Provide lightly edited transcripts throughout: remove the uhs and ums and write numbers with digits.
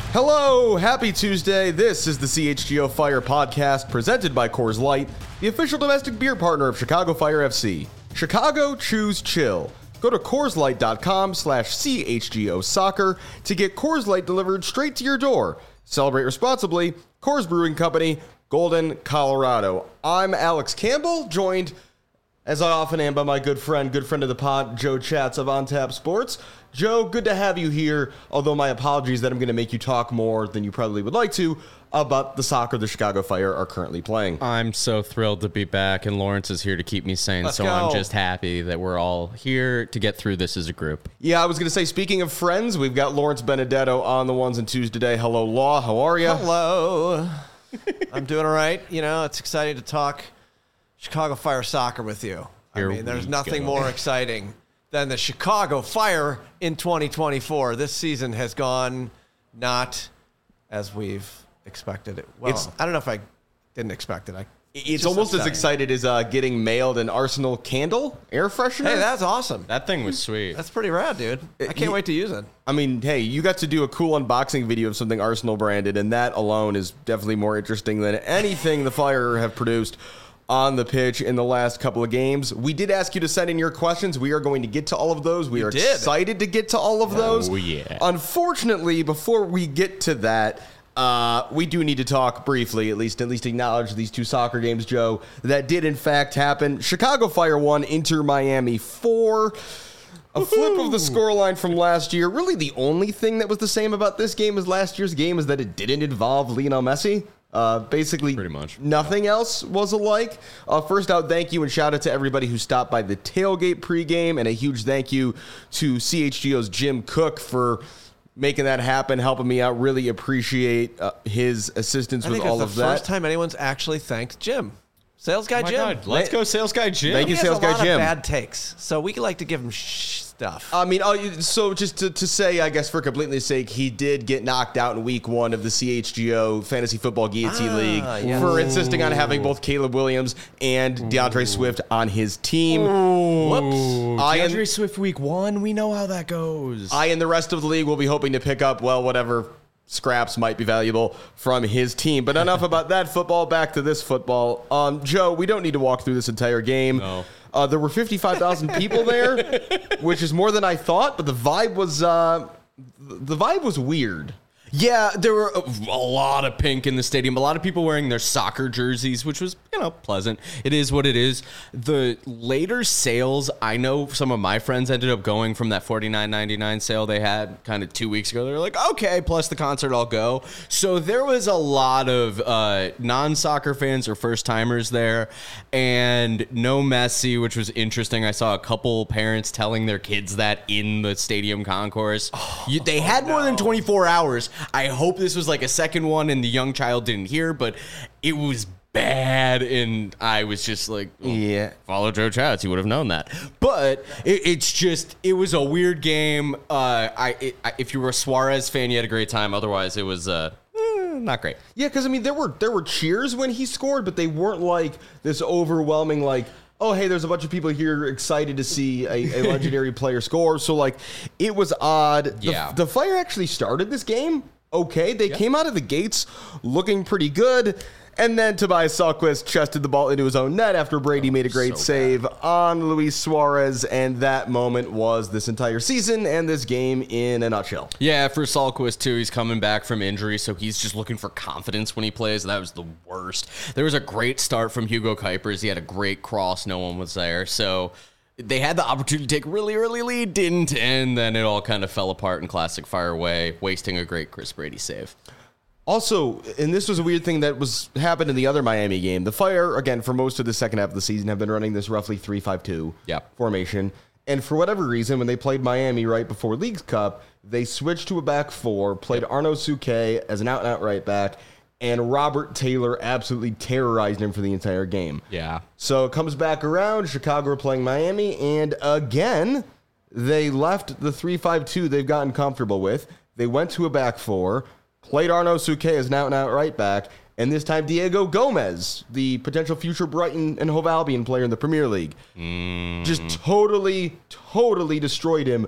Hello, happy Tuesday. This is the CHGO Fire podcast presented by Coors Light, the official domestic beer partner of Chicago Fire FC. Chicago, choose chill. Go to CoorsLight.com/CHGO Soccer to get Coors Light delivered straight to your door. Celebrate responsibly. Coors Brewing Company, Golden, Colorado. I'm Alex Campbell, joined as I often am by my good friend of the pod, Joe Chats of On Tap Sports. Joe, good to have you here, although my apologies that I'm going to make you talk more than you probably would like to about the soccer the Chicago Fire are currently playing. I'm so thrilled to be back, and Lawrence is here to keep me sane, Let's so go. I'm just happy that we're all here to get through this as a group. Yeah, I was going to say, speaking of friends, we've got Lawrence Benedetto on the ones and twos today. Hello, Law. How are you? Hello. I'm doing all right. You know, it's exciting to talk Chicago Fire soccer with you. Here I mean, there's we nothing go. more exciting than the Chicago Fire in 2024. This season has gone not as we've expected it. Well, I don't know if I didn't expect it. It's almost as excited as getting mailed an Arsenal candle air freshener. Hey, that's awesome. That thing was sweet. That's pretty rad, dude. I can't wait to use it. I mean, hey, you got to do a cool unboxing video of something Arsenal branded, and that alone is definitely more interesting than anything the Fire have produced on the pitch in the last couple of games. We did ask you to send in your questions. We are going to get to all of those. We are excited to get to all of those. Oh, yeah. Unfortunately, before we get to that, we do need to talk briefly, at least acknowledge these two soccer games, Joe, that did in fact happen. Chicago Fire 1, Inter Miami 4. A flip of the scoreline from last year. Really, the only thing that was the same about this game as last year's game is that it didn't involve Lionel Messi. Basically, Pretty much. Nothing else was alike. First out, thank you and shout out to everybody who stopped by the tailgate pregame, and a huge thank you to CHGO's Jim Cook for making that happen, helping me out. Really appreciate his assistance with all of the that. first time anyone's actually thanked Jim. Sales guy Oh my Jim. God, let's go, Sales Guy Jim. Thank you, He has Sales a Guy lot Jim. of bad takes, so we like to give him stuff. I mean, so just to say, I guess for completeness sake, he did get knocked out in week 1 of the CHGO Fantasy Football Guillotine League yes. for insisting on having both Caleb Williams and DeAndre Swift on his team. Whoops. DeAndre Swift week 1, we know how that goes. I and the rest of the league will be hoping to pick up, well, whatever scraps might be valuable from his team. But enough about that football. Back to this football. Joe, we don't need to walk through this entire game. No. There were 55,000 people there, which is more than I thought, but the vibe was weird. Yeah, there were a lot of pink in the stadium. A lot of people wearing their soccer jerseys, which was, pleasant. It is what it is. The later sales, I know some of my friends ended up going from that $49.99 sale they had kind of 2 weeks ago. They were like, okay, plus the concert, I'll go. So there was a lot of non-soccer fans or first-timers there, and no Messi, which was interesting. I saw a couple parents telling their kids that in the stadium concourse. They had more than 24 hours. I hope this was like a second one and the young child didn't hear, but it was bad, and I was just like, Yeah. follow Joe Chats, you would have known that. But it was a weird game. If you were a Suarez fan, you had a great time. Otherwise, it was not great. Yeah, because, I mean, there were cheers when he scored, but they weren't like this overwhelming, like, oh, hey, there's a bunch of people here excited to see a legendary player score. So, like, it was odd. Yeah. The Fire actually started this game okay. They came out of the gates looking pretty good. And then Tobias Sahlquist chested the ball into his own net after Brady made a great save on Luis Suarez. And that moment was this entire season and this game in a nutshell. Yeah, for Sahlquist, too, he's coming back from injury, so he's just looking for confidence when he plays. That was the worst. There was a great start from Hugo Kuipers. He had a great cross. No one was there. So they had the opportunity to take a really early lead, didn't, and then it all kind of fell apart in classic Fire way, wasting a great Chris Brady save. Also, and this was a weird thing that happened in the other Miami game. The Fire, again, for most of the second half of the season, have been running this roughly 3-5-2 formation. And for whatever reason, when they played Miami right before Leagues Cup, they switched to a back four, played Arnaud Souquet as an out-and-out right back, and Robert Taylor absolutely terrorized him for the entire game. Yeah. So it comes back around. Chicago are playing Miami, and again, they left the 3-5-2 they've gotten comfortable with. They went to a back four, played Arnaud Souquet as an out-and-out right back, and this time Diego Gomez, the potential future Brighton and Hove Albion player in the Premier League, just totally destroyed him.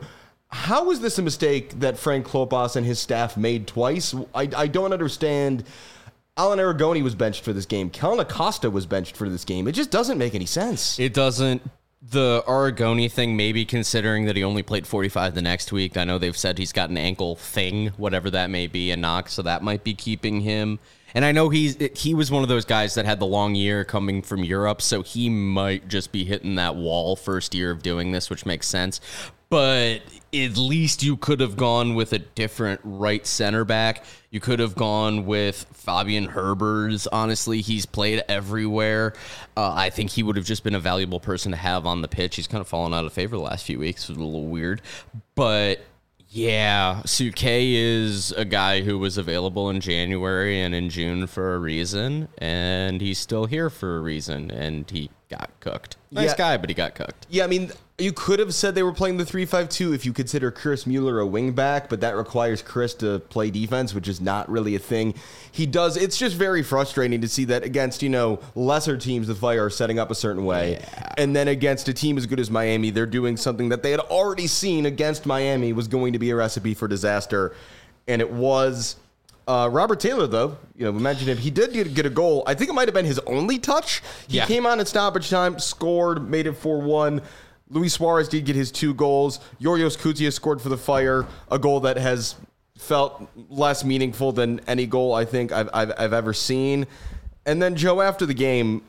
How is this a mistake that Frank Klopas and his staff made twice? I don't understand. Alan Aragoni was benched for this game. Kellen Acosta was benched for this game. It just doesn't make any sense. It doesn't. The Aragoni thing, maybe considering that he only played 45 the next week. I know they've said he's got an ankle thing, whatever that may be, a knock, so that might be keeping him. And I know he was one of those guys that had the long year coming from Europe, so he might just be hitting that wall first year of doing this, which makes sense. But at least you could have gone with a different right center back. You could have gone with Fabian Herbers. Honestly, he's played everywhere. I think he would have just been a valuable person to have on the pitch. He's kind of fallen out of favor the last few weeks. It was a little weird. But yeah, Suke is a guy who was available in January and in June for a reason, and he's still here for a reason, and he got cooked. Nice guy, but he got cooked. Yeah, I mean, you could have said they were playing the 3-5-2 if you consider Chris Mueller a wingback, but that requires Chris to play defense, which is not really a thing he does. It's just very frustrating to see that against, lesser teams, the Fire are setting up a certain way. Yeah. And then against a team as good as Miami, they're doing something that they had already seen against Miami was going to be a recipe for disaster. And it was. Robert Taylor, though, we mentioned him. He did get a goal. I think it might have been his only touch. He came on at stoppage time, scored, made it 4-1. Luis Suarez did get his 2 goals. Yorios Koutia scored for the Fire, a goal that has felt less meaningful than any goal I think I've ever seen. And then, Joe, after the game,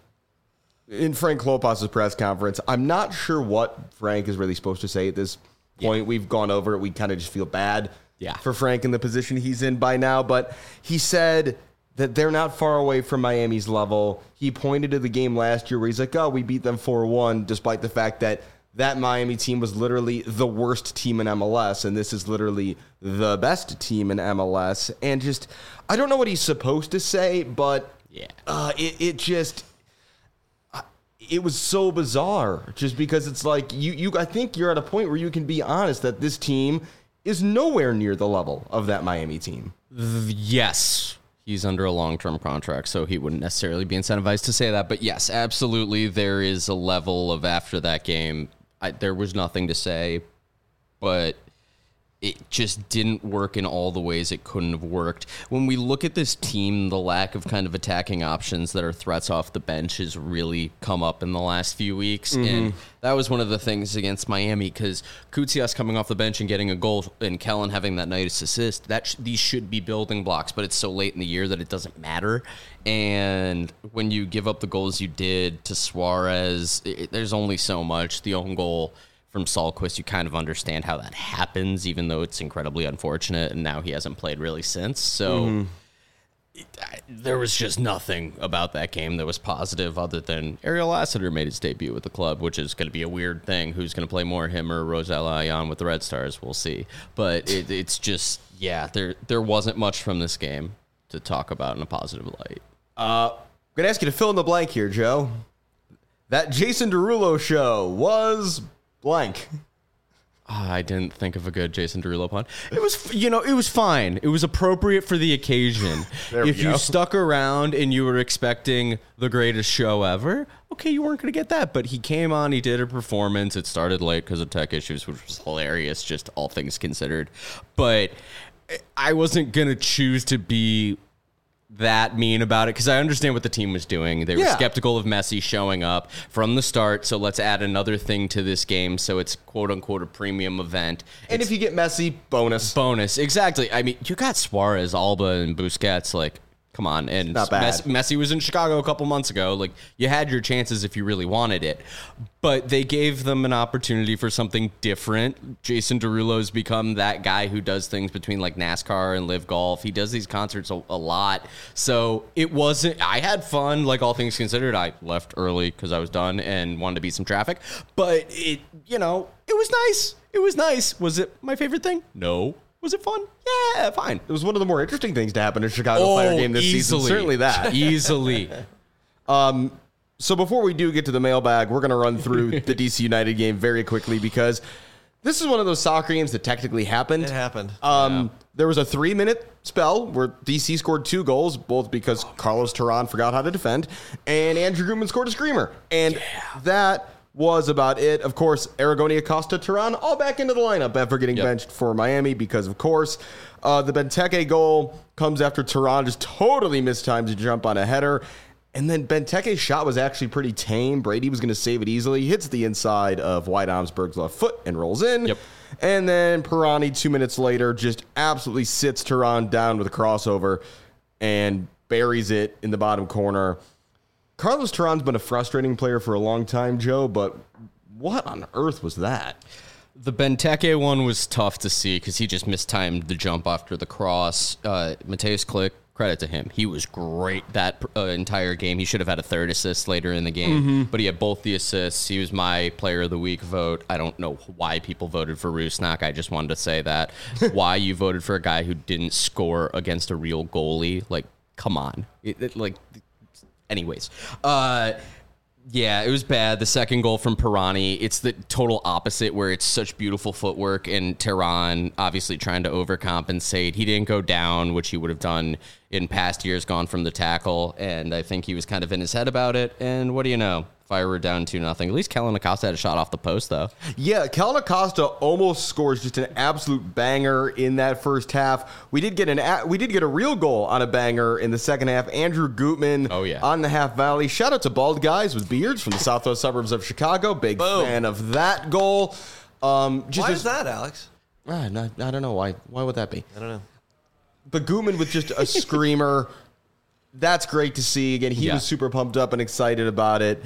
in Frank Klopas' press conference, I'm not sure what Frank is really supposed to say at this point. We've gone over it. We kind of just feel bad. For Frank in the position he's in by now. But he said that they're not far away from Miami's level. He pointed to the game last year where he's like, we beat them 4-1, despite the fact that Miami team was literally the worst team in MLS, and this is literally the best team in MLS. And just, I don't know what he's supposed to say, but it was so bizarre, just because it's like, I think you're at a point where you can be honest that this team is nowhere near the level of that Miami team. Yes. He's under a long-term contract, so he wouldn't necessarily be incentivized to say that. But yes, absolutely, there is a level of after that game, there was nothing to say, but it just didn't work in all the ways it couldn't have worked. When we look at this team, the lack of kind of attacking options that are threats off the bench has really come up in the last few weeks. Mm-hmm. And that was one of the things against Miami, because Koutsias coming off the bench and getting a goal and Kellen having that nice assist, these should be building blocks, but it's so late in the year that it doesn't matter. And when you give up the goals you did to Suarez, there's only so much. The own goal from Sahlquist, you kind of understand how that happens, even though it's incredibly unfortunate, and now he hasn't played really since. So there was just nothing about that game that was positive other than Ariel Lassiter made his debut with the club, which is going to be a weird thing. Who's going to play more, him or Rosella Ayan with the Red Stars? We'll see. But it's just, there wasn't much from this game to talk about in a positive light. I'm going to ask you to fill in the blank here, Joe. That Jason Derulo show was blank. I didn't think of a good Jason Derulo pun. It was, it was fine. It was appropriate for the occasion. If you stuck around and you were expecting the greatest show ever, okay, you weren't going to get that. But he came on, he did a performance. It started late because of tech issues, which was hilarious, just all things considered. But I wasn't going to choose to be that mean about it, because I understand what the team was doing. They were skeptical of Messi showing up from the start, so let's add another thing to this game so it's quote-unquote a premium event. And if you get Messi, bonus. Exactly. I mean, you got Suarez, Alba, and Busquets, like, come on. And not bad. Messi was in Chicago a couple months ago. Like, you had your chances if you really wanted it. But they gave them an opportunity for something different. Jason Derulo's become that guy who does things between, like, NASCAR and Live Golf. He does these concerts a lot. So it wasn't... I had fun, like, all things considered. I left early because I was done and wanted to beat some traffic. But, it was nice. It was nice. Was it my favorite thing? No. Was it fun? Yeah, fine. It was one of the more interesting things to happen in a Chicago Fire game this season. Certainly that. Easily. So before we do get to the mailbag, we're going to run through the DC United game very quickly, because this is one of those soccer games that technically happened. It happened. There was a 3-minute spell where DC scored 2 goals, both because Carlos Terán forgot how to defend, and Andrew Grumman scored a screamer. And that was about it. Of course, Aragoni, Acosta, Teran all back into the lineup after getting benched for Miami because, of course, the Benteke goal comes after Teran just totally mistimed to jump on a header. And then Benteke's shot was actually pretty tame. Brady was going to save it easily. He hits the inside of White Omsberg's left foot and rolls in. Yep. And then Pirani, 2 minutes later, just absolutely sits Teran down with a crossover and buries it in the bottom corner. Carlos Teran's been a frustrating player for a long time, Joe, but what on earth was that? The Benteke one was tough to see because he just mistimed the jump after the cross. Mateus Klick, credit to him. He was great that entire game. He should have had a third assist later in the game, but he had both the assists. He was my player of the week vote. I don't know why people voted for Rusnak. I just wanted to say that. Why you voted for a guy who didn't score against a real goalie. Like, come on. Anyways. Yeah, it was bad. The second goal from Pirani, it's the total opposite where it's such beautiful footwork and Teran obviously trying to overcompensate. He didn't go down, which he would have done in past years, gone from the tackle, and I think he was kind of in his head about it. And what do you know? Fire were down 2-0. At least Kellen Acosta had a shot off the post, though. Yeah, Kellen Acosta almost scores just an absolute banger in that first half. We did get a real goal on a banger in the second half. Andrew Gutman on the half volley. Shout out to bald guys with beards from the southwest suburbs of Chicago. Big fan of that goal. Why is that, Alex? I don't know why. Why would that be? I don't know. But Gutman with just a screamer. That's great to see. Again, he was super pumped up and excited about it.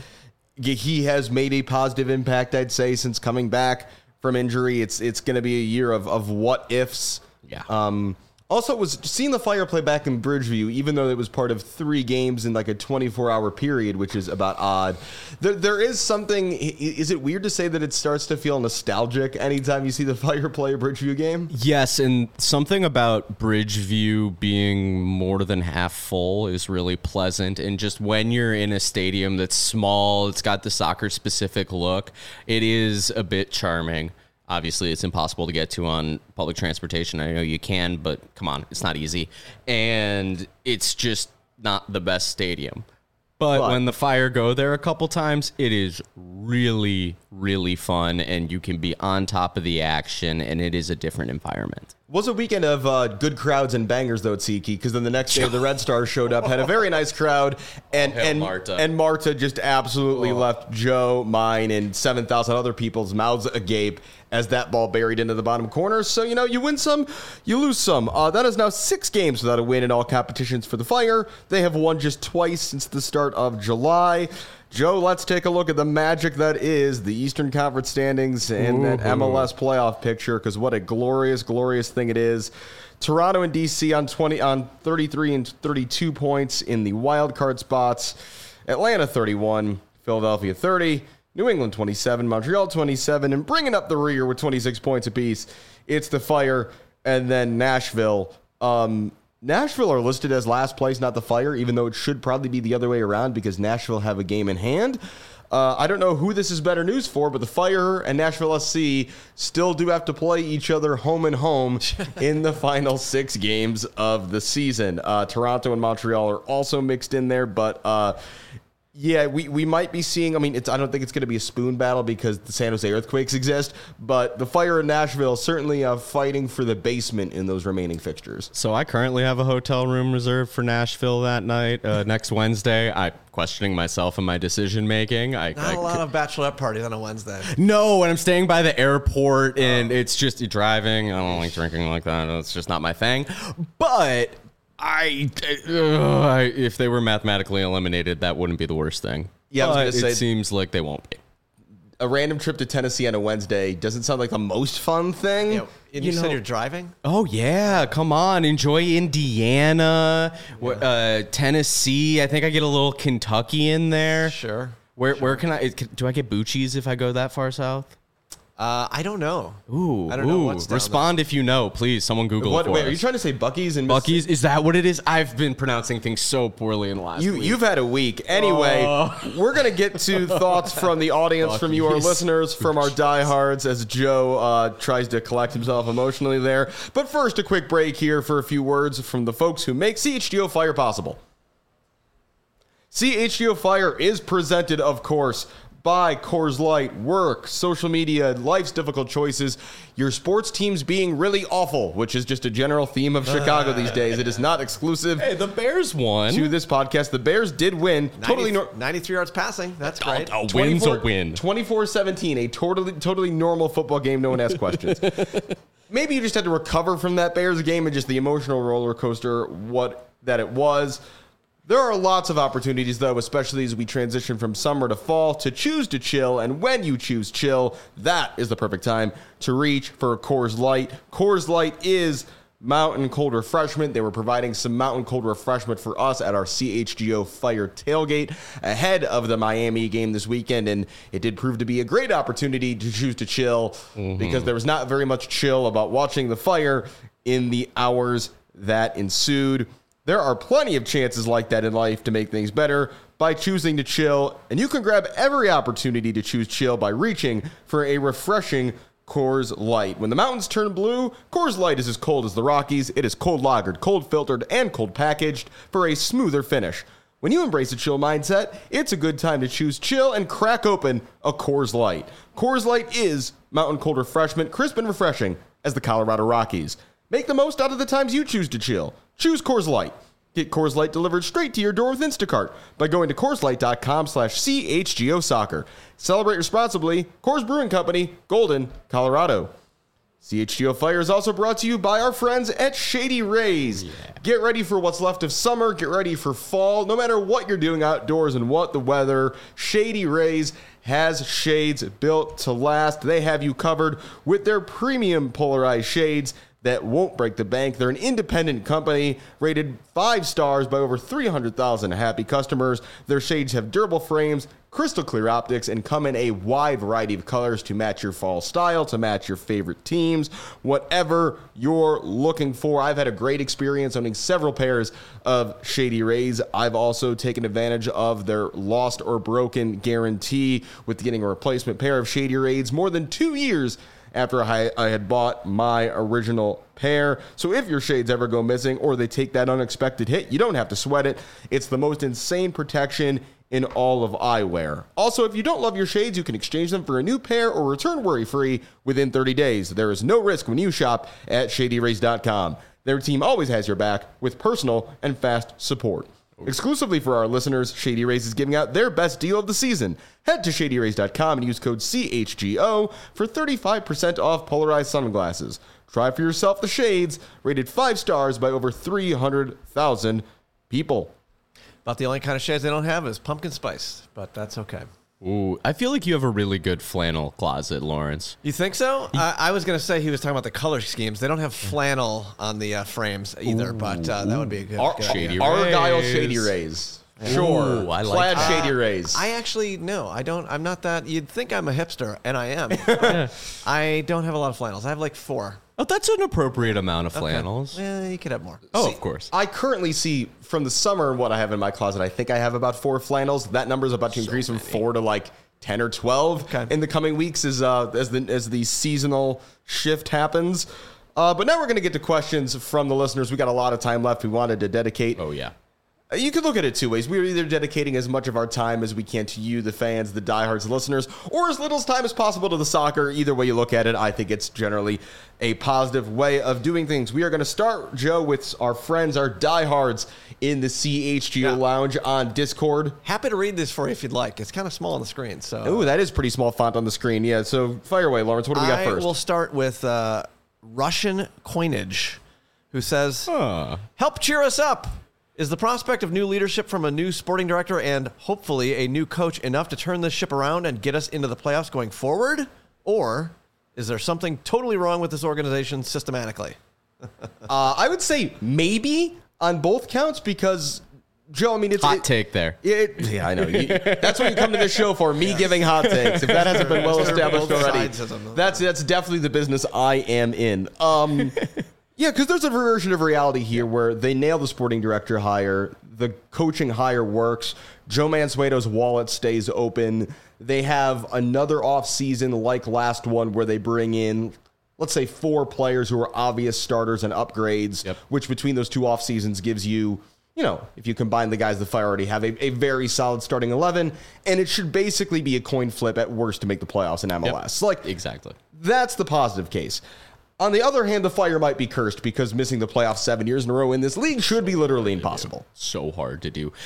He has made a positive impact, I'd say, since coming back from injury. It's going to be a year of what ifs. Yeah. Also, it was seeing the Fire play back in Bridgeview, even though it was part of 3 games in like a 24-hour period, which is about odd. There is something. Is it weird to say that it starts to feel nostalgic anytime you see the Fire play a Bridgeview game? Yes, and something about Bridgeview being more than half full is really pleasant. And just when you're in a stadium that's small, it's got the soccer-specific look, it is a bit charming. Obviously, it's impossible to get to on public transportation. I know you can, but come on, it's not easy. And it's just not the best stadium. But when the Fire go there a couple times, it is really, really fun, and you can be on top of the action, and it is a different environment. Was a weekend of good crowds and bangers, though, at SeaKey, because then the next day the Red Stars showed up, had a very nice crowd, and Marta just absolutely left Joe, mine, and 7,000 other people's mouths agape as that ball buried into the bottom corner. So, you win some, you lose some. That is now 6 games without a win in all competitions for the Fire. They have won just twice since the start of July. Joe, let's take a look at the magic that is the Eastern Conference standings and that MLS playoff picture, because what a glorious, glorious thing it is. Toronto and DC on 33 and 32 points in the wild card spots. Atlanta 31, Philadelphia 30, New England 27, Montreal 27, and bringing up the rear with 26 points apiece, it's the Fire and then Nashville. Nashville are listed as last place, not the Fire, even though it should probably be the other way around because Nashville have a game in hand. I don't know who this is better news for, but the Fire and Nashville SC still do have to play each other home and home in the final 6 games of the season. Toronto and Montreal are also mixed in there, but yeah, we might be seeing, I don't think it's going to be a spoon battle because the San Jose Earthquakes exist, but the Fire in Nashville certainly fighting for the basement in those remaining fixtures. So I currently have a hotel room reserved for Nashville that night, next Wednesday. I'm questioning myself and my decision-making. Not a lot of bachelorette parties on a Wednesday. No, and I'm staying by the airport, and it's just driving. I don't like drinking like that. It's just not my thing. But if they were mathematically eliminated, that wouldn't be the worst thing. Yeah, I was going to say, it seems like they won't be. A random trip to Tennessee on a Wednesday doesn't sound like the most fun thing. Yeah, and you said you're driving? Oh, yeah. Come on. Enjoy Indiana, Tennessee. I think I get a little Kentucky in there. Sure. Where can I? Do I get Bucci's if I go that far south? I don't know. I don't know what's down Respond there. If you know, please. Someone Google it for Wait, us. are you trying to say Buc-ee's? Buc-ee's? Is that what it is? I've been pronouncing things so poorly in the last week. You've had a week. Anyway, we're going to get to thoughts from the audience, from you, our listeners, from our diehards, as Joe tries to collect himself emotionally there. But first, a quick break here for a few words from the folks who make CHGO Fire possible. CHGO Fire is presented, of course, by Coors Light, work, social media, life's difficult choices, your sports teams being really awful, which is just a general theme of Chicago these days. It is not exclusive Hey, the Bears won. to this podcast. The Bears did win. 93 yards passing. That's great. A win's a win. 24-17, a totally normal football game. No one asked questions. Maybe you just had to recover from that Bears game and just the emotional roller coaster that it was. There are lots of opportunities, though, especially as we transition from summer to fall, to choose to chill. And when you choose chill, that is the perfect time to reach for a Coors Light. Coors Light is mountain cold refreshment. They were providing some mountain cold refreshment for us at our CHGO Fire tailgate ahead of the Miami game this weekend. And it did prove to be a great opportunity to choose to chill because there was not very much chill about watching the Fire in the hours that ensued. There are plenty of chances like that in life to make things better by choosing to chill, and you can grab every opportunity to choose chill by reaching for a refreshing Coors Light. When the mountains turn blue, Coors Light is as cold as the Rockies. It is cold lagered, cold filtered, and cold packaged for a smoother finish. When you embrace a chill mindset, it's a good time to choose chill and crack open a Coors Light. Coors Light is mountain cold refreshment, crisp and refreshing as the Colorado Rockies. Make the most out of the times you choose to chill. Choose Coors Light. Get Coors Light delivered straight to your door with Instacart by going to CoorsLight.com/CHGO Soccer. Celebrate responsibly. Coors Brewing Company, Golden, Colorado. CHGO Fire is also brought to you by our friends at Shady Rays. Yeah. Get ready for what's left of summer. Get ready for fall. No matter what you're doing outdoors and what the weather, Shady Rays has shades built to last. They have you covered with their premium polarized shades that won't break the bank. They're an independent company rated 5 stars by over 300,000 happy customers. Their shades have durable frames, crystal clear optics, and come in a wide variety of colors to match your fall style, to match your favorite teams, whatever you're looking for. I've had a great experience owning several pairs of Shady Rays. I've also taken advantage of their lost or broken guarantee with getting a replacement pair of Shady Rays more than 2 years after I had bought my original pair. So if your shades ever go missing or they take that unexpected hit, you don't have to sweat it. It's the most insane protection in all of eyewear. Also, if you don't love your shades, you can exchange them for a new pair or return worry-free within 30 days. There is no risk when you shop at ShadyRays.com. Their team always has your back with personal and fast support. Exclusively for our listeners, Shady Rays is giving out their best deal of the season. Head to ShadyRays.com and use code CHGO for 35% off polarized sunglasses. Try for yourself the shades, rated 5 stars by over 300,000 people. About the only kind of shades they don't have is pumpkin spice, but that's okay. Ooh, I feel like you have a really good flannel closet, Lawrence. You think so? I was going to say he was talking about the color schemes. They don't have flannel on the frames either, but that would be a good Shady idea. Argyle Shady Rays. Sure. Ooh, I like Plaid Shady Rays. I actually, no, I don't. I'm not that. You'd think I'm a hipster, and I am. I don't have a lot of flannels. I have like 4. Oh, that's an appropriate amount of flannels. Okay. Yeah, you could have more. Oh, of course. I currently see from the summer what I have in my closet. I think I have about 4 flannels. That number is about to increase from 4 to like 10 or 12 in the coming weeks as the seasonal shift happens. But now we're going to get to questions from the listeners. We got a lot of time left. We wanted to dedicate. Oh, yeah. You could look at it 2 ways. We are either dedicating as much of our time as we can to you, the fans, the diehards, the listeners, or as little time as possible to the soccer. Either way you look at it, I think it's generally a positive way of doing things. We are going to start, Joe, with our friends, our diehards in the CHGO Lounge on Discord. Happy to read this for you if you'd like. It's kind of small on the screen. So. Ooh, that is pretty small font on the screen. Yeah, so fire away, Lawrence. What do we got first? We'll start with Russian Coinage, who says, help cheer us up. Is the prospect of new leadership from a new sporting director and hopefully a new coach enough to turn this ship around and get us into the playoffs going forward? Or is there something totally wrong with this organization systematically? I would say maybe on both counts because, Joe, I mean, it's... Hot take there. Yeah, I know. That's what you come to this show for, me giving hot takes. If that hasn't been well established already, that's definitely the business I am in. Yeah, because there's a version of reality here where they nail the sporting director hire, the coaching hire works, Joe Mansueto's wallet stays open. They have another offseason like last one where they bring in, let's say, 4 players who are obvious starters and upgrades, which between those 2 off seasons gives you if you combine the guys the Fire already have, a very solid starting 11, and it should basically be a coin flip at worst to make the playoffs in MLS. Exactly. That's the positive case. On the other hand, the Fire might be cursed because missing the playoffs 7 years in a row in this league should be literally impossible. So hard to do.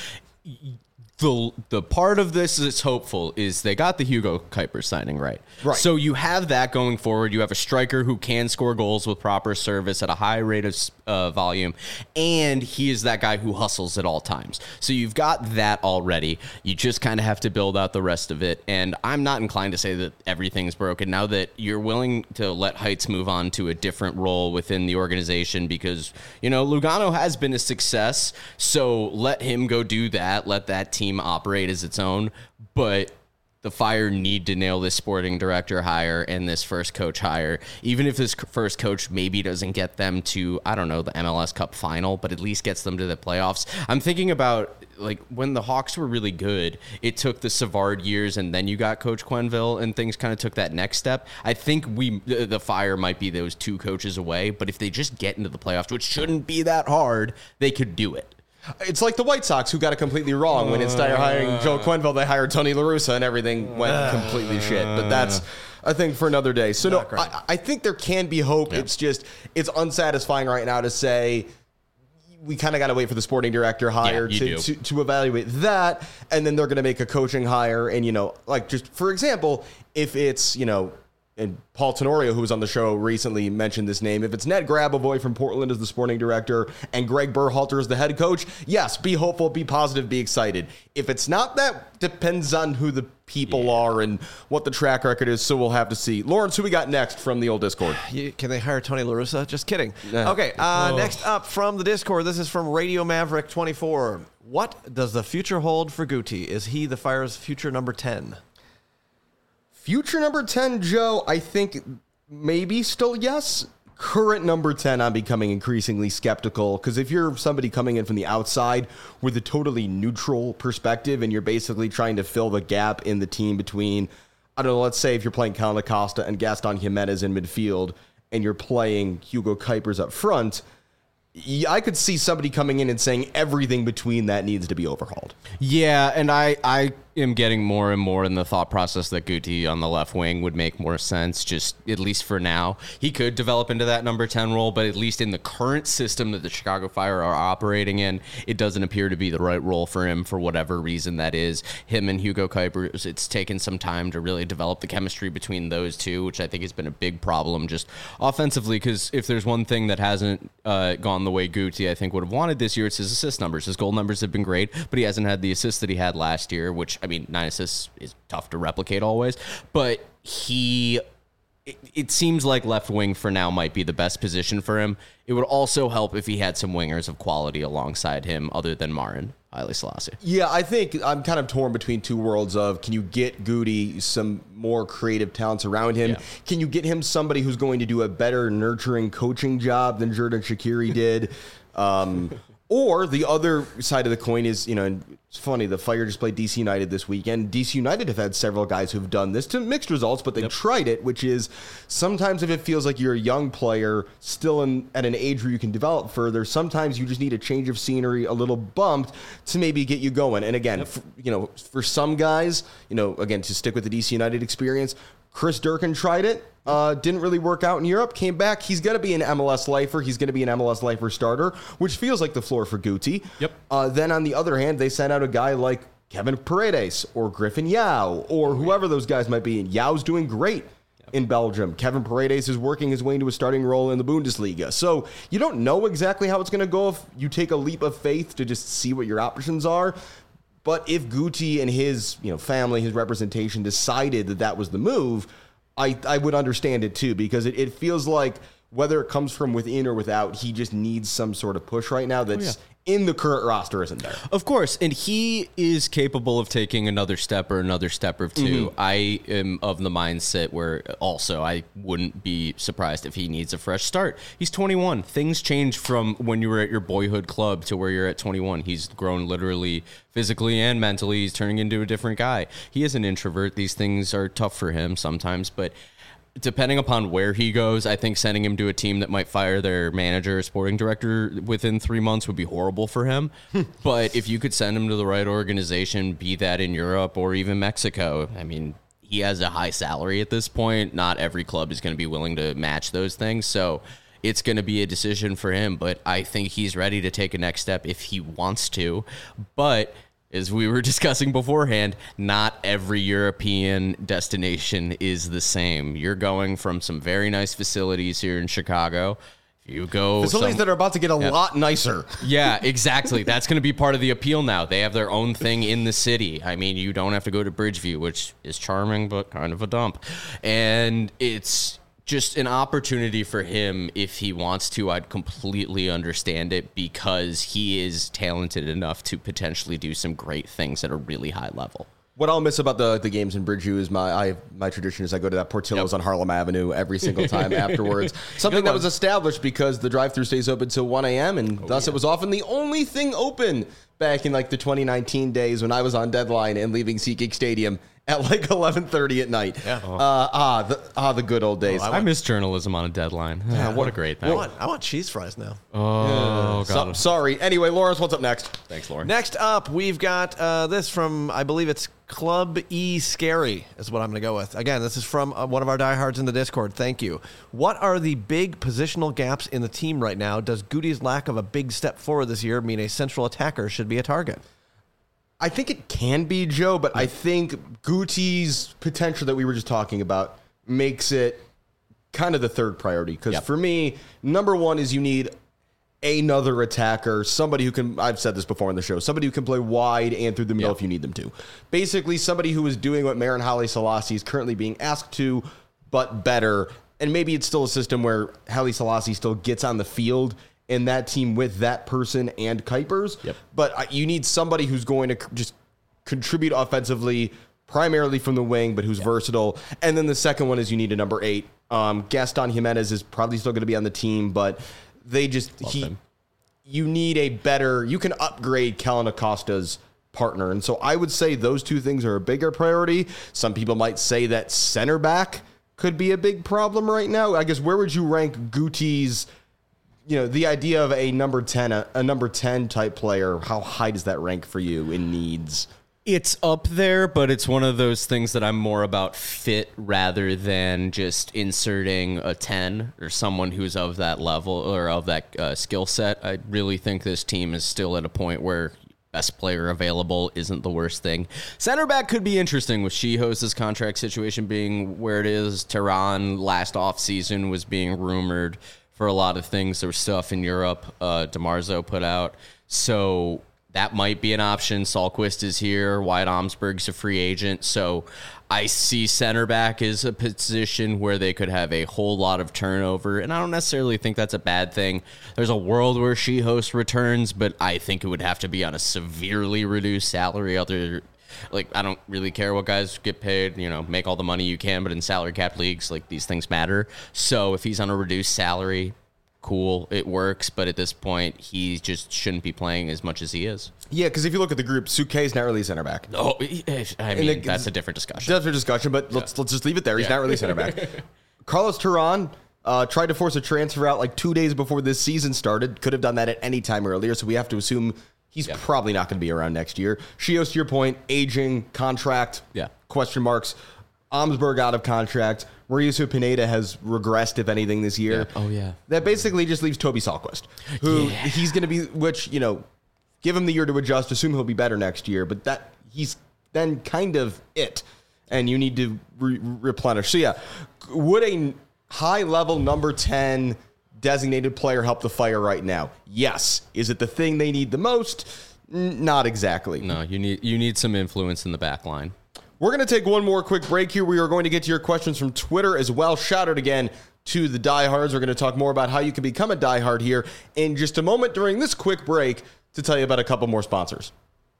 The part of this that's hopeful is they got the Hugo Kuiper signing right. So you have that going forward. You have a striker who can score goals with proper service at a high rate of volume, and he is that guy who hustles at all times. So you've got that already. You just kind of have to build out the rest of it, and I'm not inclined to say that everything's broken now that you're willing to let Heights move on to a different role within the organization because, Lugano has been a success, so let him go do that. Let that team operate as its own, but the Fire need to nail this sporting director hire and this first coach hire. Even if this first coach maybe doesn't get them to, the MLS Cup final, but at least gets them to the playoffs. I'm thinking about when the Hawks were really good, it took the Savard years and then you got Coach Quenneville and things kind of took that next step. I think the Fire might be those two coaches away, but if they just get into the playoffs, which shouldn't be that hard, they could do it. It's like the White Sox, who got it completely wrong. When instead of hiring Joe Quenneville, they hired Tony La Russa, and everything went completely shit. But that's a thing for another day. So, I think there can be hope. Yeah. It's unsatisfying right now to say we kind of got to wait for the sporting director hire to evaluate that, and then they're going to make a coaching hire. And, just for example, if it's, and Paul Tenorio, who was on the show recently, mentioned this name. If it's Ned Grabavoy from Portland as the sporting director and Greg Berhalter as the head coach, yes, be hopeful, be positive, be excited. If it's not that, depends on who the people are and what the track record is, so we'll have to see. Lawrence, who we got next from the old Discord? Can they hire Tony La Russa? Just kidding. Okay, next up from the Discord, this is from Radio Maverick 24. What does the future hold for Guti? Is he the Fire's future number 10? Future number 10, Joe, I think maybe still yes. Current number 10, I'm becoming increasingly skeptical because if you're somebody coming in from the outside with a totally neutral perspective and you're basically trying to fill the gap in the team between, let's say if you're playing Cal Acosta and Gaston Jimenez in midfield and you're playing Hugo Kuipers up front, I could see somebody coming in and saying everything between that needs to be overhauled. Yeah, and I am getting more and more in the thought process that Guti on the left wing would make more sense, just at least for now. He could develop into that number 10 role, but at least in the current system that the Chicago Fire are operating in, it doesn't appear to be the right role for him for whatever reason that is. Him and Hugo Kuipers, it's taken some time to really develop the chemistry between those two, which I think has been a big problem just offensively, because if there's one thing that hasn't gone the way Guti, I think, would have wanted this year, it's his assist numbers. His goal numbers have been great, but he hasn't had the assists that he had last year, which, 9 assists is tough to replicate always, but it seems like left wing for now might be the best position for him. It would also help if he had some wingers of quality alongside him other than Marin Haile Selassie. Yeah, I think I'm kind of torn between two worlds of, can you get Guti some more creative talents around him? Yeah. Can you get him somebody who's going to do a better nurturing coaching job than Xherdan Shaqiri did? Or the other side of the coin is, it's funny, the Fire just played DC United this weekend. DC United have had several guys who've done this to mixed results, but they've tried it, which is sometimes if it feels like you're a young player still at an age where you can develop further, sometimes you just need a change of scenery, a little bumped to maybe get you going. And again, for some guys, again, to stick with the DC United experience, Chris Durkin tried it. Didn't really work out in Europe, came back. He's going to be an MLS lifer. He's going to be an MLS lifer starter, which feels like the floor for Guti. Yep. Then on the other hand, they sent out a guy like Kevin Paredes or Griffin Yao or whoever those guys might be. And Yao's doing great in Belgium. Kevin Paredes is working his way into a starting role in the Bundesliga. So you don't know exactly how it's going to go if you take a leap of faith to just see what your options are. But if Guti and his family, his representation decided that was the move, I would understand it too, because it feels like whether it comes from within or without, he just needs some sort of push right now that's in the current roster isn't there. Of course, and he is capable of taking another step or two. Mm-hmm. I am of the mindset where also I wouldn't be surprised if he needs a fresh start. He's 21. Things change from when you were at your boyhood club to where you're at 21. He's grown literally physically and mentally. He's turning into a different guy. He is an introvert. These things are tough for him sometimes, but depending upon where he goes, I think sending him to a team that might fire their manager or sporting director within 3 months would be horrible for him. But if you could send him to the right organization, be that in Europe or even Mexico, I mean, he has a high salary at this point. Not every club is going to be willing to match those things. So it's going to be a decision for him. But I think he's ready to take a next step if he wants to. But as we were discussing beforehand, not every European destination is the same. You're going from some very nice facilities here in Chicago. You go facilities that are about to get a lot nicer. Yeah, exactly. That's going to be part of the appeal now. They have their own thing in the city. I mean, you don't have to go to Bridgeview, which is charming, but kind of a dump. And it's just an opportunity for him. If he wants to, I'd completely understand it, because he is talented enough to potentially do some great things at a really high level. What I'll miss about the games in Bridgeview is my tradition is I go to that Portillo's on Harlem Avenue every single time afterwards. Something that was established because the drive-thru stays open till 1 a.m. and thus it was often the only thing open back in like the 2019 days when I was on deadline and leaving SeatGeek Stadium at like 11:30 at night. Yeah. The good old days. I miss journalism on a deadline. What a great thing. I want cheese fries now. Oh, God. Sorry. Anyway, Lawrence, what's up next? Thanks, Lauren. Next up, we've got this from, I believe it's Club E Scary is what I'm going to go with. Again, this is from one of our diehards in the Discord. Thank you. What are the big positional gaps in the team right now? Does Goody's lack of a big step forward this year mean a central attacker should be a target? I think it can be, Joe, but I think Guti's potential that we were just talking about makes it kind of the third priority. Because for me, number one is you need another attacker, somebody who can, I've said this before on the show, somebody who can play wide and through the middle if you need them to. Basically, somebody who is doing what Marin Haile Selassie is currently being asked to, but better. And maybe it's still a system where Haile Selassie still gets on the field in that team with that person and Kuipers. But you need somebody who's going to just contribute offensively, primarily from the wing, but who's versatile. And then the second one is you need a number 8. Gaston Jimenez is probably still going to be on the team, but they just you need a better, you can upgrade Kellen Acosta's partner. And so I would say those two things are a bigger priority. Some people might say that center back could be a big problem right now. I guess where would you rank Guti's, the idea of a number 10 type player, how high does that rank for you in needs? It's up there, but it's one of those things that I'm more about fit rather than just inserting a 10 or someone who's of that level or of that skill set. I really think this team is still at a point where best player available isn't the worst thing. Center back could be interesting with Shihos' contract situation being where it is. Tehran last offseason was being rumored for a lot of things. There was stuff in Europe DeMarzo put out. So that might be an option. Sahlquist is here. Wyatt Omsberg's a free agent. So I see center back as a position where they could have a whole lot of turnover, and I don't necessarily think that's a bad thing. There's a world where Shihos returns, but I think it would have to be on a severely reduced salary. I don't really care what guys get paid. Make all the money you can, but in salary cap leagues, these things matter. So if he's on a reduced salary, cool, it works, but at this point, he just shouldn't be playing as much as he is. Yeah, because if you look at the group, Suke's not really a center back. Oh, I mean, that's a different discussion. But let's just leave it there. He's not really a center back. Carlos Tehran tried to force a transfer out 2 days before this season started. Could have done that at any time earlier, so we have to assume he's probably not going to be around next year. Shios, to your point, aging, contract, question marks. Omsberg out of contract. Mauricio Pineda has regressed, if anything, this year. Oh, yeah. That basically just leaves Toby Sahlquist, who he's going to be, give him the year to adjust, assume he'll be better next year, but that he's then kind of it, and you need to replenish. So, would a high-level number 10 designated player help the Fire right now? Yes. Is it the thing they need the most? Not exactly. No, you need some influence in the back line. We're going to take one more quick break here. We are going to get to your questions from Twitter as well. Shout out again to the diehards. We're going to talk more about how you can become a diehard here in just a moment during this quick break to tell you about a couple more sponsors.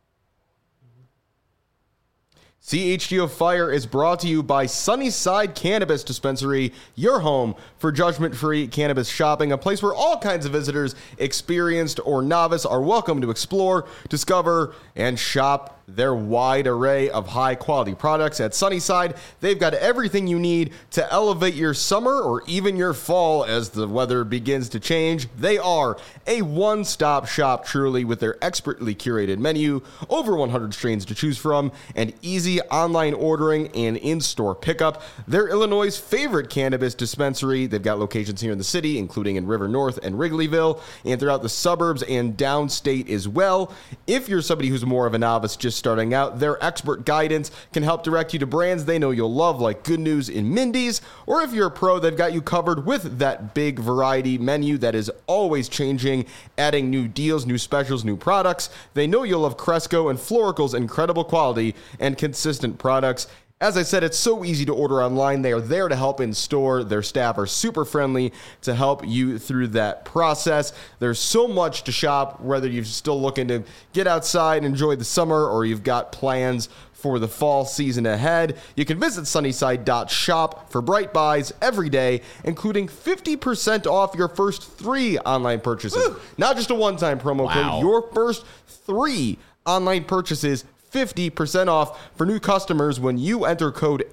CHGO Fire is brought to you by Sunnyside Cannabis Dispensary, your home for judgment-free cannabis shopping, a place where all kinds of visitors, experienced or novice, are welcome to explore, discover, and shop their wide array of high-quality products. At Sunnyside, they've got everything you need to elevate your summer or even your fall as the weather begins to change. They are a one-stop shop, truly, with their expertly curated menu, over 100 strains to choose from, and easy online ordering and in-store pickup. They're Illinois' favorite cannabis dispensary. They've got locations here in the city, including in River North and Wrigleyville, and throughout the suburbs and downstate as well. If you're somebody who's more of a novice just starting out, their expert guidance can help direct you to brands they know you'll love, like Good News in Mindy's. Or if you're a pro, they've got you covered with that big variety menu that is always changing, adding new deals, new specials, new products. They know you'll love Cresco and Florical's incredible quality and consistent products. As I said, it's so easy to order online. They are there to help in store. Their staff are super friendly to help you through that process. There's so much to shop, whether you're still looking to get outside and enjoy the summer or you've got plans for the fall season ahead. You can visit sunnyside.shop for bright buys every day, including 50% off your first 3 online purchases. Woo! Not just a one-time promo code. Your first 3 online purchases, 50% off for new customers when you enter code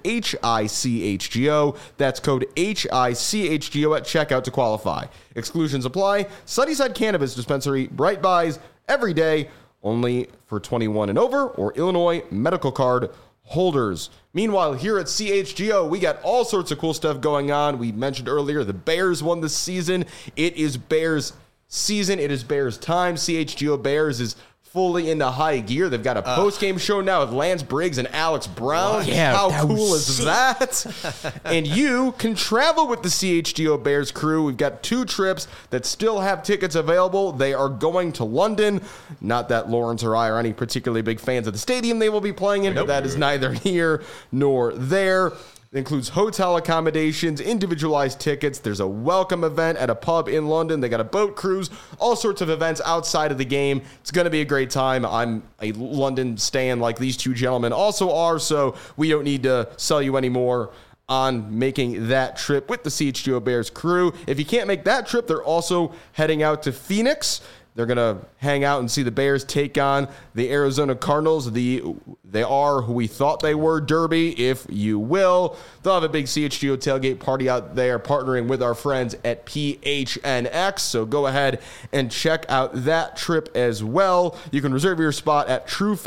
HICHGO. That's code HICHGO at checkout to qualify. Exclusions apply. Sunnyside Cannabis Dispensary, bright buys every day, only for 21 and over or Illinois medical card holders. Meanwhile, here at CHGO, we got all sorts of cool stuff going on. We mentioned earlier the Bears won this season. It is Bears season. It is Bears time. CHGO Bears is fully into high gear. They've got a post-game show now with Lance Briggs and Alex Brown. Yeah, how cool is that? And you can travel with the CHGO Bears crew. We've got 2 trips that still have tickets available. They are going to London. Not that Lawrence or I are any particularly big fans of the stadium they will be playing in, but that is neither here nor there. It includes hotel accommodations, individualized tickets. There's a welcome event at a pub in London. They got a boat cruise, all sorts of events outside of the game. It's going to be a great time. I'm a London stan like these 2 gentlemen also are, so we don't need to sell you any more on making that trip with the CHGO Bears crew. If you can't make that trip, they're also heading out to Phoenix. They're going to hang out and see the Bears take on the Arizona Cardinals. They are who we thought they were, Derby, if you will. They'll have a big CHGO tailgate party out there, partnering with our friends at PHNX. So go ahead and check out that trip as well. You can reserve your spot at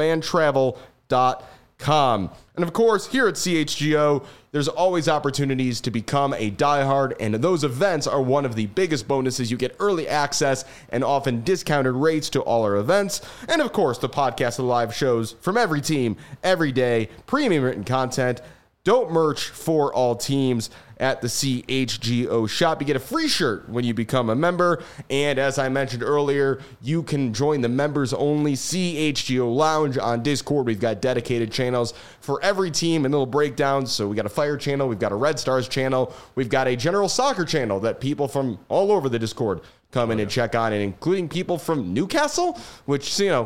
truefantravel.com. And of course, here at CHGO, there's always opportunities to become a diehard, and those events are one of the biggest bonuses. You get early access and often discounted rates to all our events. And of course, the podcast and live shows from every team, every day, premium written content, dope merch for all teams at the CHGO shop. You get a free shirt when you become a member. And as I mentioned earlier, you can join the members-only CHGO Lounge on Discord. We've got dedicated channels for every team and little breakdowns. So we got a Fire channel, we've got a Red Stars channel, we've got a General Soccer channel that people from all over the Discord come in and check on, and including people from Newcastle, which,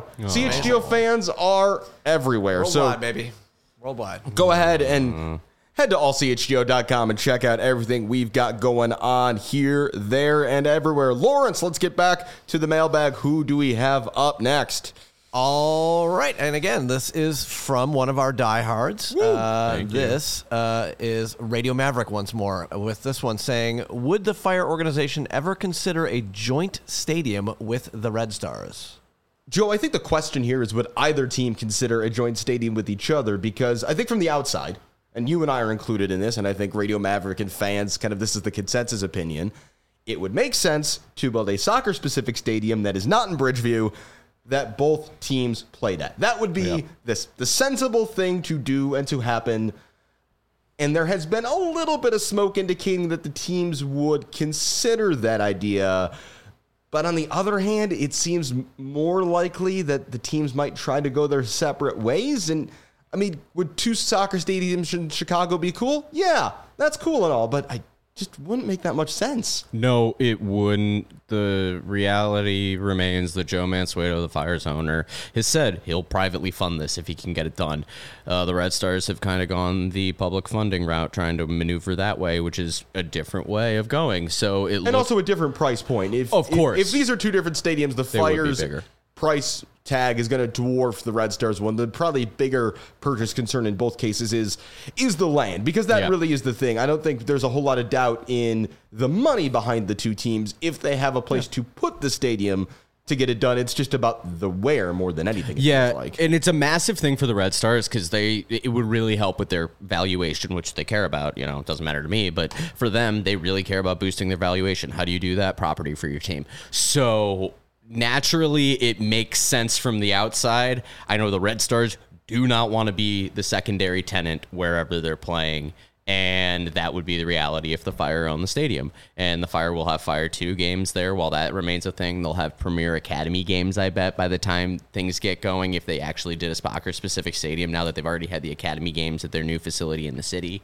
CHGO fans are everywhere. Worldwide, baby. Worldwide. Go ahead and head to allchgo.com and check out everything we've got going on here, there, and everywhere. Lawrence, let's get back to the mailbag. Who do we have up next? All right. And again, this is from one of our diehards. This is Radio Maverick once more, with this one saying, would the Fire organization ever consider a joint stadium with the Red Stars? Joe, I think the question here is, would either team consider a joint stadium with each other? Because I think from the outside, and you and I are included in this, and I think Radio Maverick and fans, this is the consensus opinion, it would make sense to build a soccer-specific stadium that is not in Bridgeview that both teams played at. That would be the sensible thing to do and to happen. And there has been a little bit of smoke indicating that the teams would consider that idea. But on the other hand, it seems more likely that the teams might try to go their separate ways. And, would 2 soccer stadiums in Chicago be cool? Yeah, that's cool and all, but I just wouldn't make that much sense. No, it wouldn't. The reality remains that Joe Mansueto, the Fire's owner, has said he'll privately fund this if he can get it done. The Red Stars have kind of gone the public funding route, trying to maneuver that way, which is a different way of going. So also a different price point. Of course. If these are 2 different stadiums, the Fires price tag is going to dwarf the Red Stars one. The probably bigger purchase concern in both cases is the land, because that really is the thing. I don't think there's a whole lot of doubt in the money behind the two teams if they have a place to put the stadium to get it done. It's just about the where more than anything. It feels like. And it's a massive thing for the Red Stars because it would really help with their valuation, which they care about. You know, it doesn't matter to me, but for them, they really care about boosting their valuation. How do you do that? Property for your team. So naturally, it makes sense from the outside. I know the Red Stars do not want to be the secondary tenant wherever they're playing. And that would be the reality if the Fire own the stadium. And the Fire will have Fire 2 games there while that remains a thing. They'll have Premier Academy games, I bet, by the time things get going, if they actually did a Spocker-specific stadium, now that they've already had the Academy games at their new facility in the city.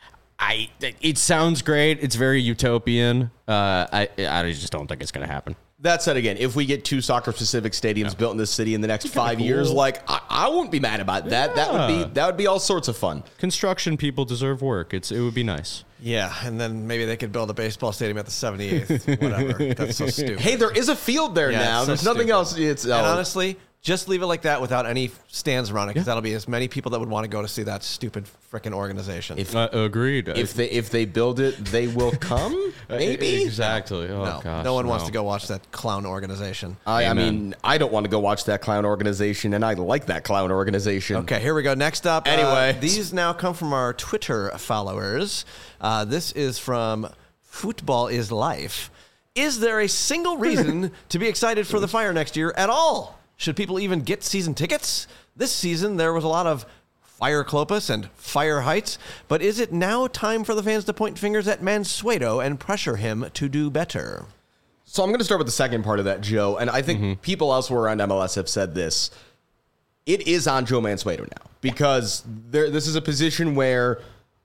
It sounds great. It's very utopian. I just don't think it's going to happen. That said, again, if we get 2 soccer-specific stadiums built in this city in the next 5 years, like I wouldn't be mad about that. That would be all sorts of fun. Construction people deserve work. It would be nice. Yeah, and then maybe they could build a baseball stadium at the 78th. Whatever. That's so stupid. Hey, there is a field there now. There's nothing else. And honestly, just leave it like that without any stands around it, because that'll be as many people that would want to go to see that stupid frickin' organization. Agreed. If they build it, they will come. Maybe exactly. Oh, gosh, no one wants to go watch that clown organization. I mean, I don't want to go watch that clown organization, and I like that clown organization. Okay, here we go. Next up, anyway, these now come from our Twitter followers. This is from Football is Life. Is there a single reason to be excited for the Fire next year at all? Should people even get season tickets? This season, there was a lot of Fire Clopas and Fire Heights, but is it now time for the fans to point fingers at Mansueto and pressure him to do better? So I'm going to start with the second part of that, Joe, and I think people elsewhere around MLS have said this. It is on Joe Mansueto now, because this is a position where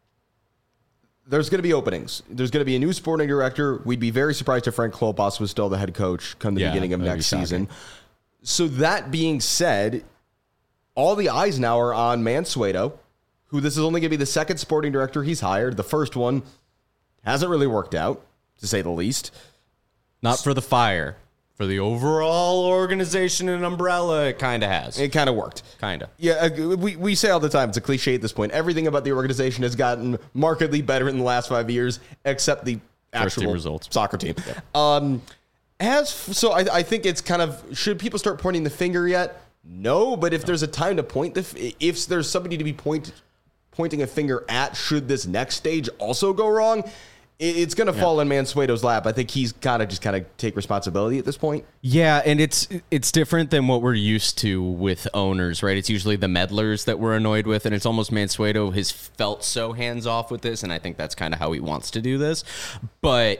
there's going to be openings. There's going to be a new sporting director. We'd be very surprised if Frank Klopas was still the head coach come the beginning of next season. So that being said, all the eyes now are on Mansueto, who this is only going to be the second sporting director he's hired. The first one hasn't really worked out, to say the least. Not for the Fire. For the overall organization and umbrella, it kind of has. It kind of worked. Kind of. Yeah, we say all the time, it's a cliche at this point. Everything about the organization has gotten markedly better in the last 5 years, except the actual soccer team. Yeah. So I think it's kind of, should people start pointing the finger yet? No, but if there's a time to point, if there's somebody to be pointing a finger at, should this next stage also go wrong, it's going to fall in Mansueto's lap. I think he's got to just kind of take responsibility at this point. Yeah, and it's different than what we're used to with owners, right? It's usually the meddlers that we're annoyed with, and it's almost Mansueto has felt so hands-off with this, and I think that's kind of how he wants to do this. But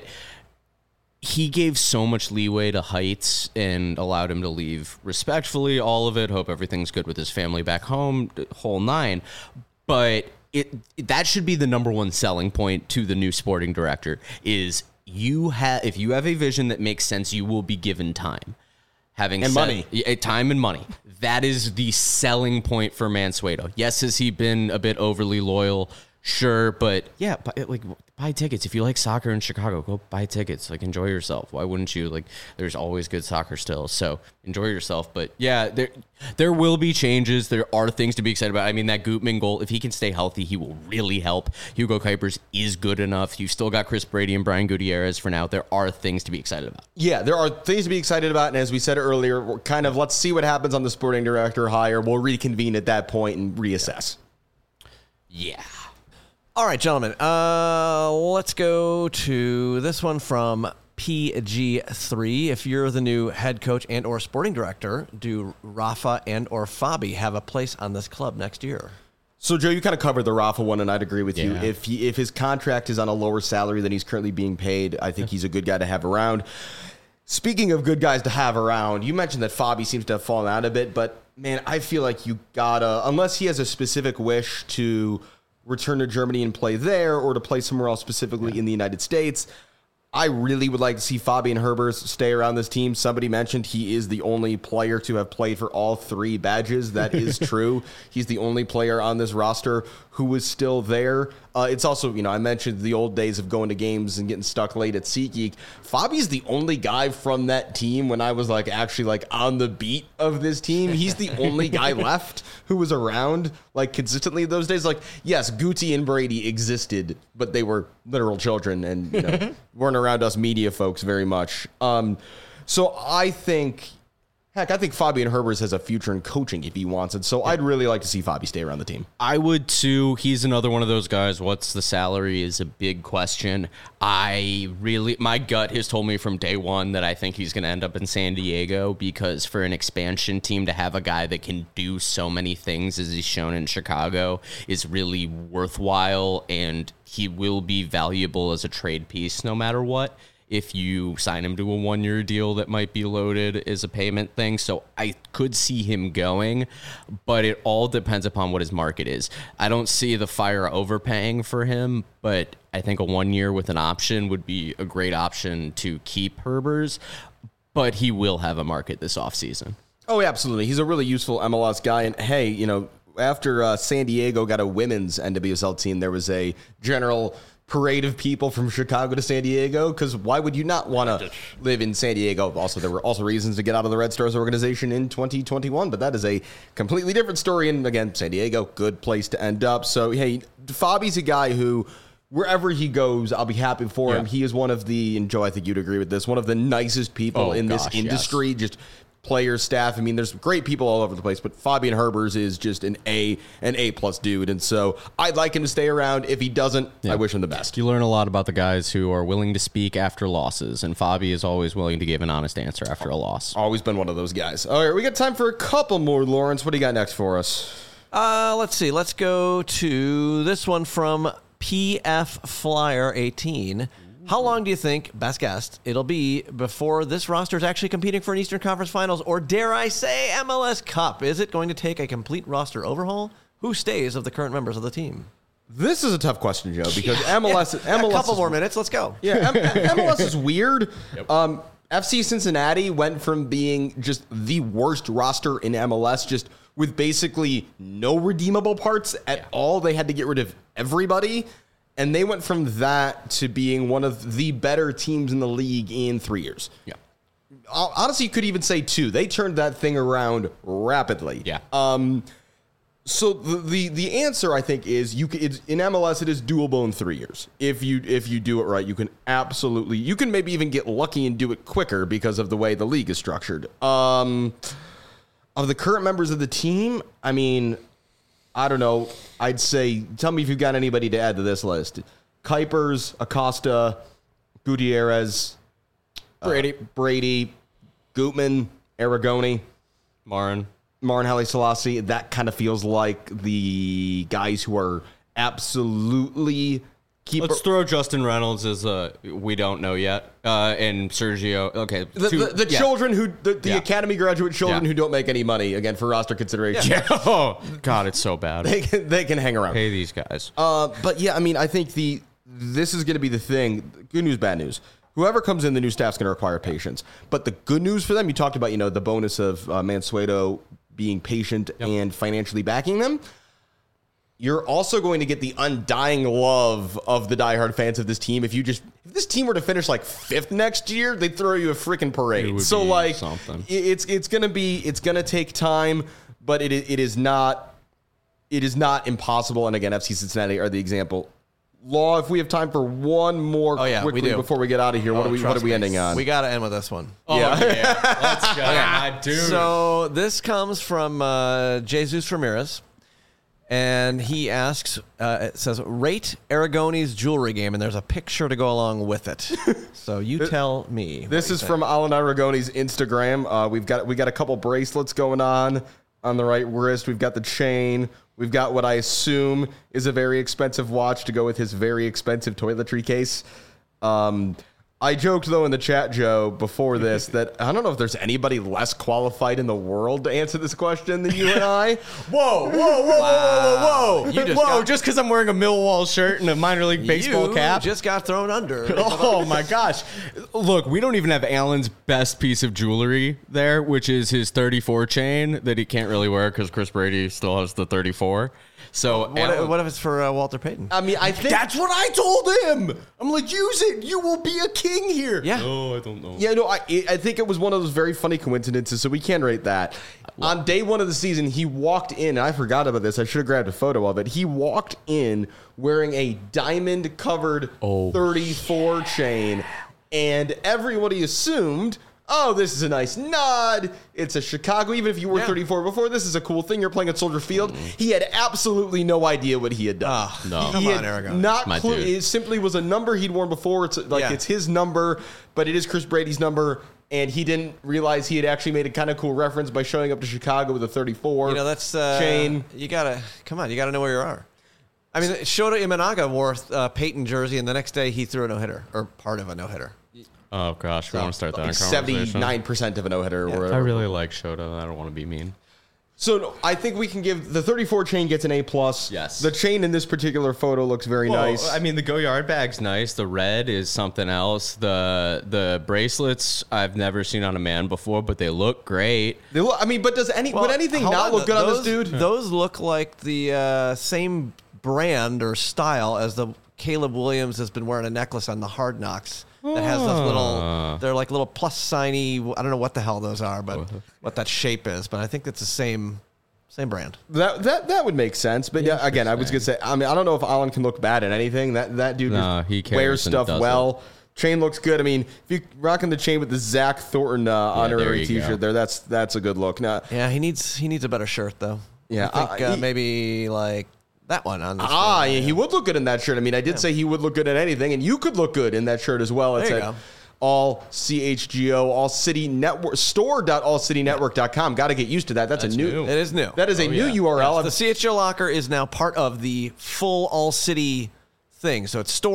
he gave so much leeway to Heights and allowed him to leave respectfully, all of it. Hope everything's good with his family back home, whole nine. But that should be the number one selling point to the new sporting director is if you have a vision that makes sense, you will be given time. Money. Time and money. That is the selling point for Mansueto. Yes, has he been a bit overly loyal? Sure, but yeah, buy tickets. If you like soccer in Chicago, go buy tickets. Enjoy yourself. Why wouldn't you? There's always good soccer still, so enjoy yourself. But yeah, there will be changes. There are things to be excited about. I mean, that Gutman goal, if he can stay healthy, he will really help. Hugo Kuipers is good enough. You've still got Chris Brady and Brian Gutierrez for now. There are things to be excited about. Yeah, there are things to be excited about, and as we said earlier, we're kind of, let's see what happens on the sporting director hire. We'll reconvene at that point and reassess. Yeah. All right, gentlemen, let's go to this one from PG3. If you're the new head coach and or sporting director, do Rafa and or Fabi have a place on this club next year? So, Joe, you kind of covered the Rafa one, and I'd agree with you. If his contract is on a lower salary than he's currently being paid, I think he's a good guy to have around. Speaking of good guys to have around, you mentioned that Fabi seems to have fallen out a bit, but, man, I feel like you gotta, unless he has a specific wish to return to Germany and play there or to play somewhere else, specifically in the United States, I really would like to see Fabian Herbers stay around this team. Somebody mentioned he is the only player to have played for all 3 badges. That is true. He's the only player on this roster who is still there. It's also, I mentioned the old days of going to games and getting stuck late at SeatGeek. Fabi's the only guy from that team when I was actually on the beat of this team. He's the only guy left who was around consistently those days. Yes, Guti and Brady existed, but they were literal children and weren't around us media folks very much. So I think Fabian Herbers has a future in coaching if he wants it. So I'd really like to see Fabi stay around the team. I would too. He's another one of those guys. What's the salary is a big question. My gut has told me from day one that I think he's going to end up in San Diego, because for an expansion team to have a guy that can do so many things as he's shown in Chicago is really worthwhile, and he will be valuable as a trade piece no matter what. If you sign him to a 1-year deal that might be loaded as a payment thing. So I could see him going, but it all depends upon what his market is. I don't see the Fire overpaying for him, but I think a 1 year with an option would be a great option to keep Herbers, but he will have a market this offseason. Oh, absolutely. He's a really useful MLS guy. And hey, after San Diego got a women's NWSL team, there was a general parade of people from Chicago to San Diego, because why would you not want to live in San Diego? Also, there were also reasons to get out of the Red Stars organization in 2021, but that is a completely different story. And again, San Diego, good place to end up. So, hey, Fabi's a guy who, wherever he goes, I'll be happy for him. He is one of the, and Joe, I think you'd agree with this, one of the nicest people in this industry. Yes. Just players, staff. I mean, there's great people all over the place, but Fabian Herbers is just an A+ dude. And so I'd like him to stay around. If he doesn't, I wish him the best. You learn a lot about the guys who are willing to speak after losses, and Fabi is always willing to give an honest answer after a loss. Always been one of those guys. All right, we got time for a couple more, Lawrence. What do you got next for us? Let's see. Let's go to this one from PF Flyer 18. How long do you think, best guess, it'll be before this roster is actually competing for an Eastern Conference Finals, or dare I say MLS Cup? Is it going to take a complete roster overhaul? Who stays of the current members of the team? This is a tough question, Joe, because MLS... A couple more minutes. Let's go. Yeah, MLS is weird. Yep. FC Cincinnati went from being just the worst roster in MLS, just with basically no redeemable parts at all. They had to get rid of everybody. And they went from that to being one of the better teams in the league in 3 years. Yeah. Honestly, you could even say 2. They turned that thing around rapidly. Yeah. So the answer, I think, is in MLS it is doable in 3 years. If you do it right, you can maybe even get lucky and do it quicker because of the way the league is structured. Of the current members of the team, I mean, I don't know. I'd say, tell me if you've got anybody to add to this list. Kuipers, Acosta, Gutierrez, Brady, Gutman, Aragoni, Marin Haile Selassie. That kind of feels like the guys who are absolutely... Let's throw Justin Reynolds as we don't know yet, and Sergio. Okay, the children who the academy graduate children who don't make any money, again, for roster consideration. Yeah. Oh God, it's so bad. They can hang around. Pay these guys. But yeah, I mean, I think this is going to be the thing. Good news, bad news. Whoever comes in, the new staff's going to require patience. But the good news for them, you talked about, the bonus of Mansueto being patient and financially backing them. You're also going to get the undying love of the diehard fans of this team. If this team were to finish 5th next year, they'd throw you a freaking parade. So something. It's gonna take time, but it is not impossible. And again, FC Cincinnati are the example. Law, if we have time for one more quickly before we get out of here, what are we ending on? We got to end with this one. Oh, yeah. Let's go. Okay. Dude. So this comes from Jesus Ramirez. And he asks, it says, rate Aragoni's jewelry game, and there's a picture to go along with it. So you tell me. This is from Alan Aragoni's Instagram. We got a couple bracelets going on the right wrist. We've got the chain. We've got what I assume is a very expensive watch to go with his very expensive toiletry case. I joked, though, in the chat, Joe, before this, that I don't know if there's anybody less qualified in the world to answer this question than you and I. Whoa. You Just because I'm wearing a Millwall shirt and a minor league baseball You cap. just got thrown under. Oh my gosh. Look, we don't even have Alan's best piece of jewelry there, which is his 34 chain that he can't really wear because Chris Brady still has the 34. So What if it's for Walter Payton? I mean, I think that's what I told him. I'm like, use it. You will be a king here. Yeah. Oh, I don't know. Yeah, no, I think it was one of those very funny coincidences, so we can rate that. On day one of the season, he walked in, and I forgot about this. I should have grabbed a photo of it. He walked in wearing a diamond-covered 34 chain, and everybody assumed, oh, this is a nice nod. It's a Chicago. Even if you were 34 before, this is a cool thing. You're playing at Soldier Field. He had absolutely no idea what he had done. No. Come on, Aragon. Not My clue. dude. It simply was a number he'd worn before. It's like it's his number, but it is Chris Brady's number. And he didn't realize he had actually made a kind of cool reference by showing up to Chicago with a 34 That's chain. You gotta know where you are. I mean, Shota Imanaga wore Peyton jersey, and the next day he threw a no-hitter, or part of a no-hitter. Oh, gosh. We want to start that Like conversation. 79% of a no-hitter. Or I whatever. really like Shota. I don't want to be mean. So no, I think we can give the 34 chain gets an A+. Yes. The chain in this particular photo looks very nice. I mean, the Go Yard bag's nice. The red is something else. The bracelets I've never seen on a man before, but they look great. They look, I mean, but would anything hold not look good on this dude? Those look like the same brand or style as the Caleb Williams has been wearing a necklace on the Hard Knocks that has those they're like little plus signy. I don't know what the hell those are, but what that shape is. But I think it's the same brand. That would make sense. But yeah, again, I was gonna say. I mean, I don't know if Alan can look bad at anything. That dude he just wears cares and stuff does well. Chain looks good. I mean, if you're rocking the chain with the Zach Thornton honorary there you T-shirt, go. that's a good look. Now, Yeah, he needs a better shirt though. Yeah, I think he- maybe like that one on. This yeah, he would look good in that shirt. I mean, I did say he would look good in anything, and you could look good in that shirt as well. It's There you at go. all CHGO, All City Network, store.allcitynetwork.com. Got to get used to that. That's a new. It is new. That is a new URL. The CHGO locker is now part of the full All City thing. So it's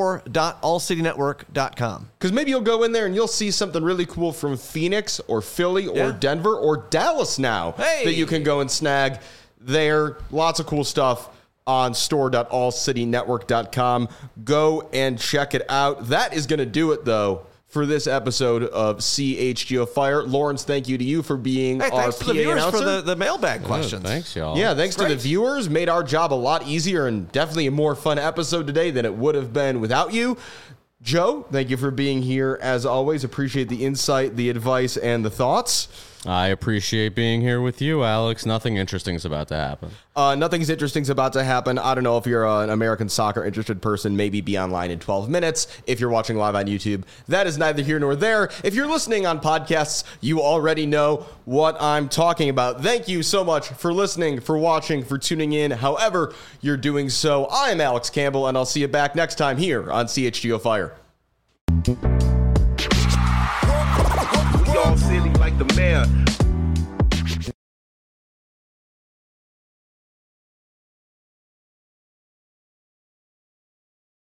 store.allcitynetwork.com. Because maybe you'll go in there and you'll see something really cool from Phoenix or Philly or Yeah. Denver or Dallas now Hey! that you can go and snag there. Lots of cool stuff on store.allcitynetwork.com. Go and check it out. That is going to do it, though, for this episode of CHGO Fire. Lawrence, thank you to you for being Hey, our thanks PA to the viewers announcer. for the mailbag questions. Thanks, y'all. Yeah, thanks to the Great. viewers. Made our job a lot easier and definitely a more fun episode today than it would have been without you. Joe, thank you for being here as always. Appreciate the insight, the advice, and the thoughts. I appreciate being here with you, Alex. Nothing interesting is about to happen. Nothing's interesting's about to happen. I don't know if you're an American soccer interested person, maybe be online in 12 minutes. If you're watching live on YouTube, that is neither here nor there. If you're listening on podcasts, you already know what I'm talking about. Thank you so much for listening, for watching, for tuning in, however you're doing so. I'm Alex Campbell, and I'll see you back next time here on CHGO Fire.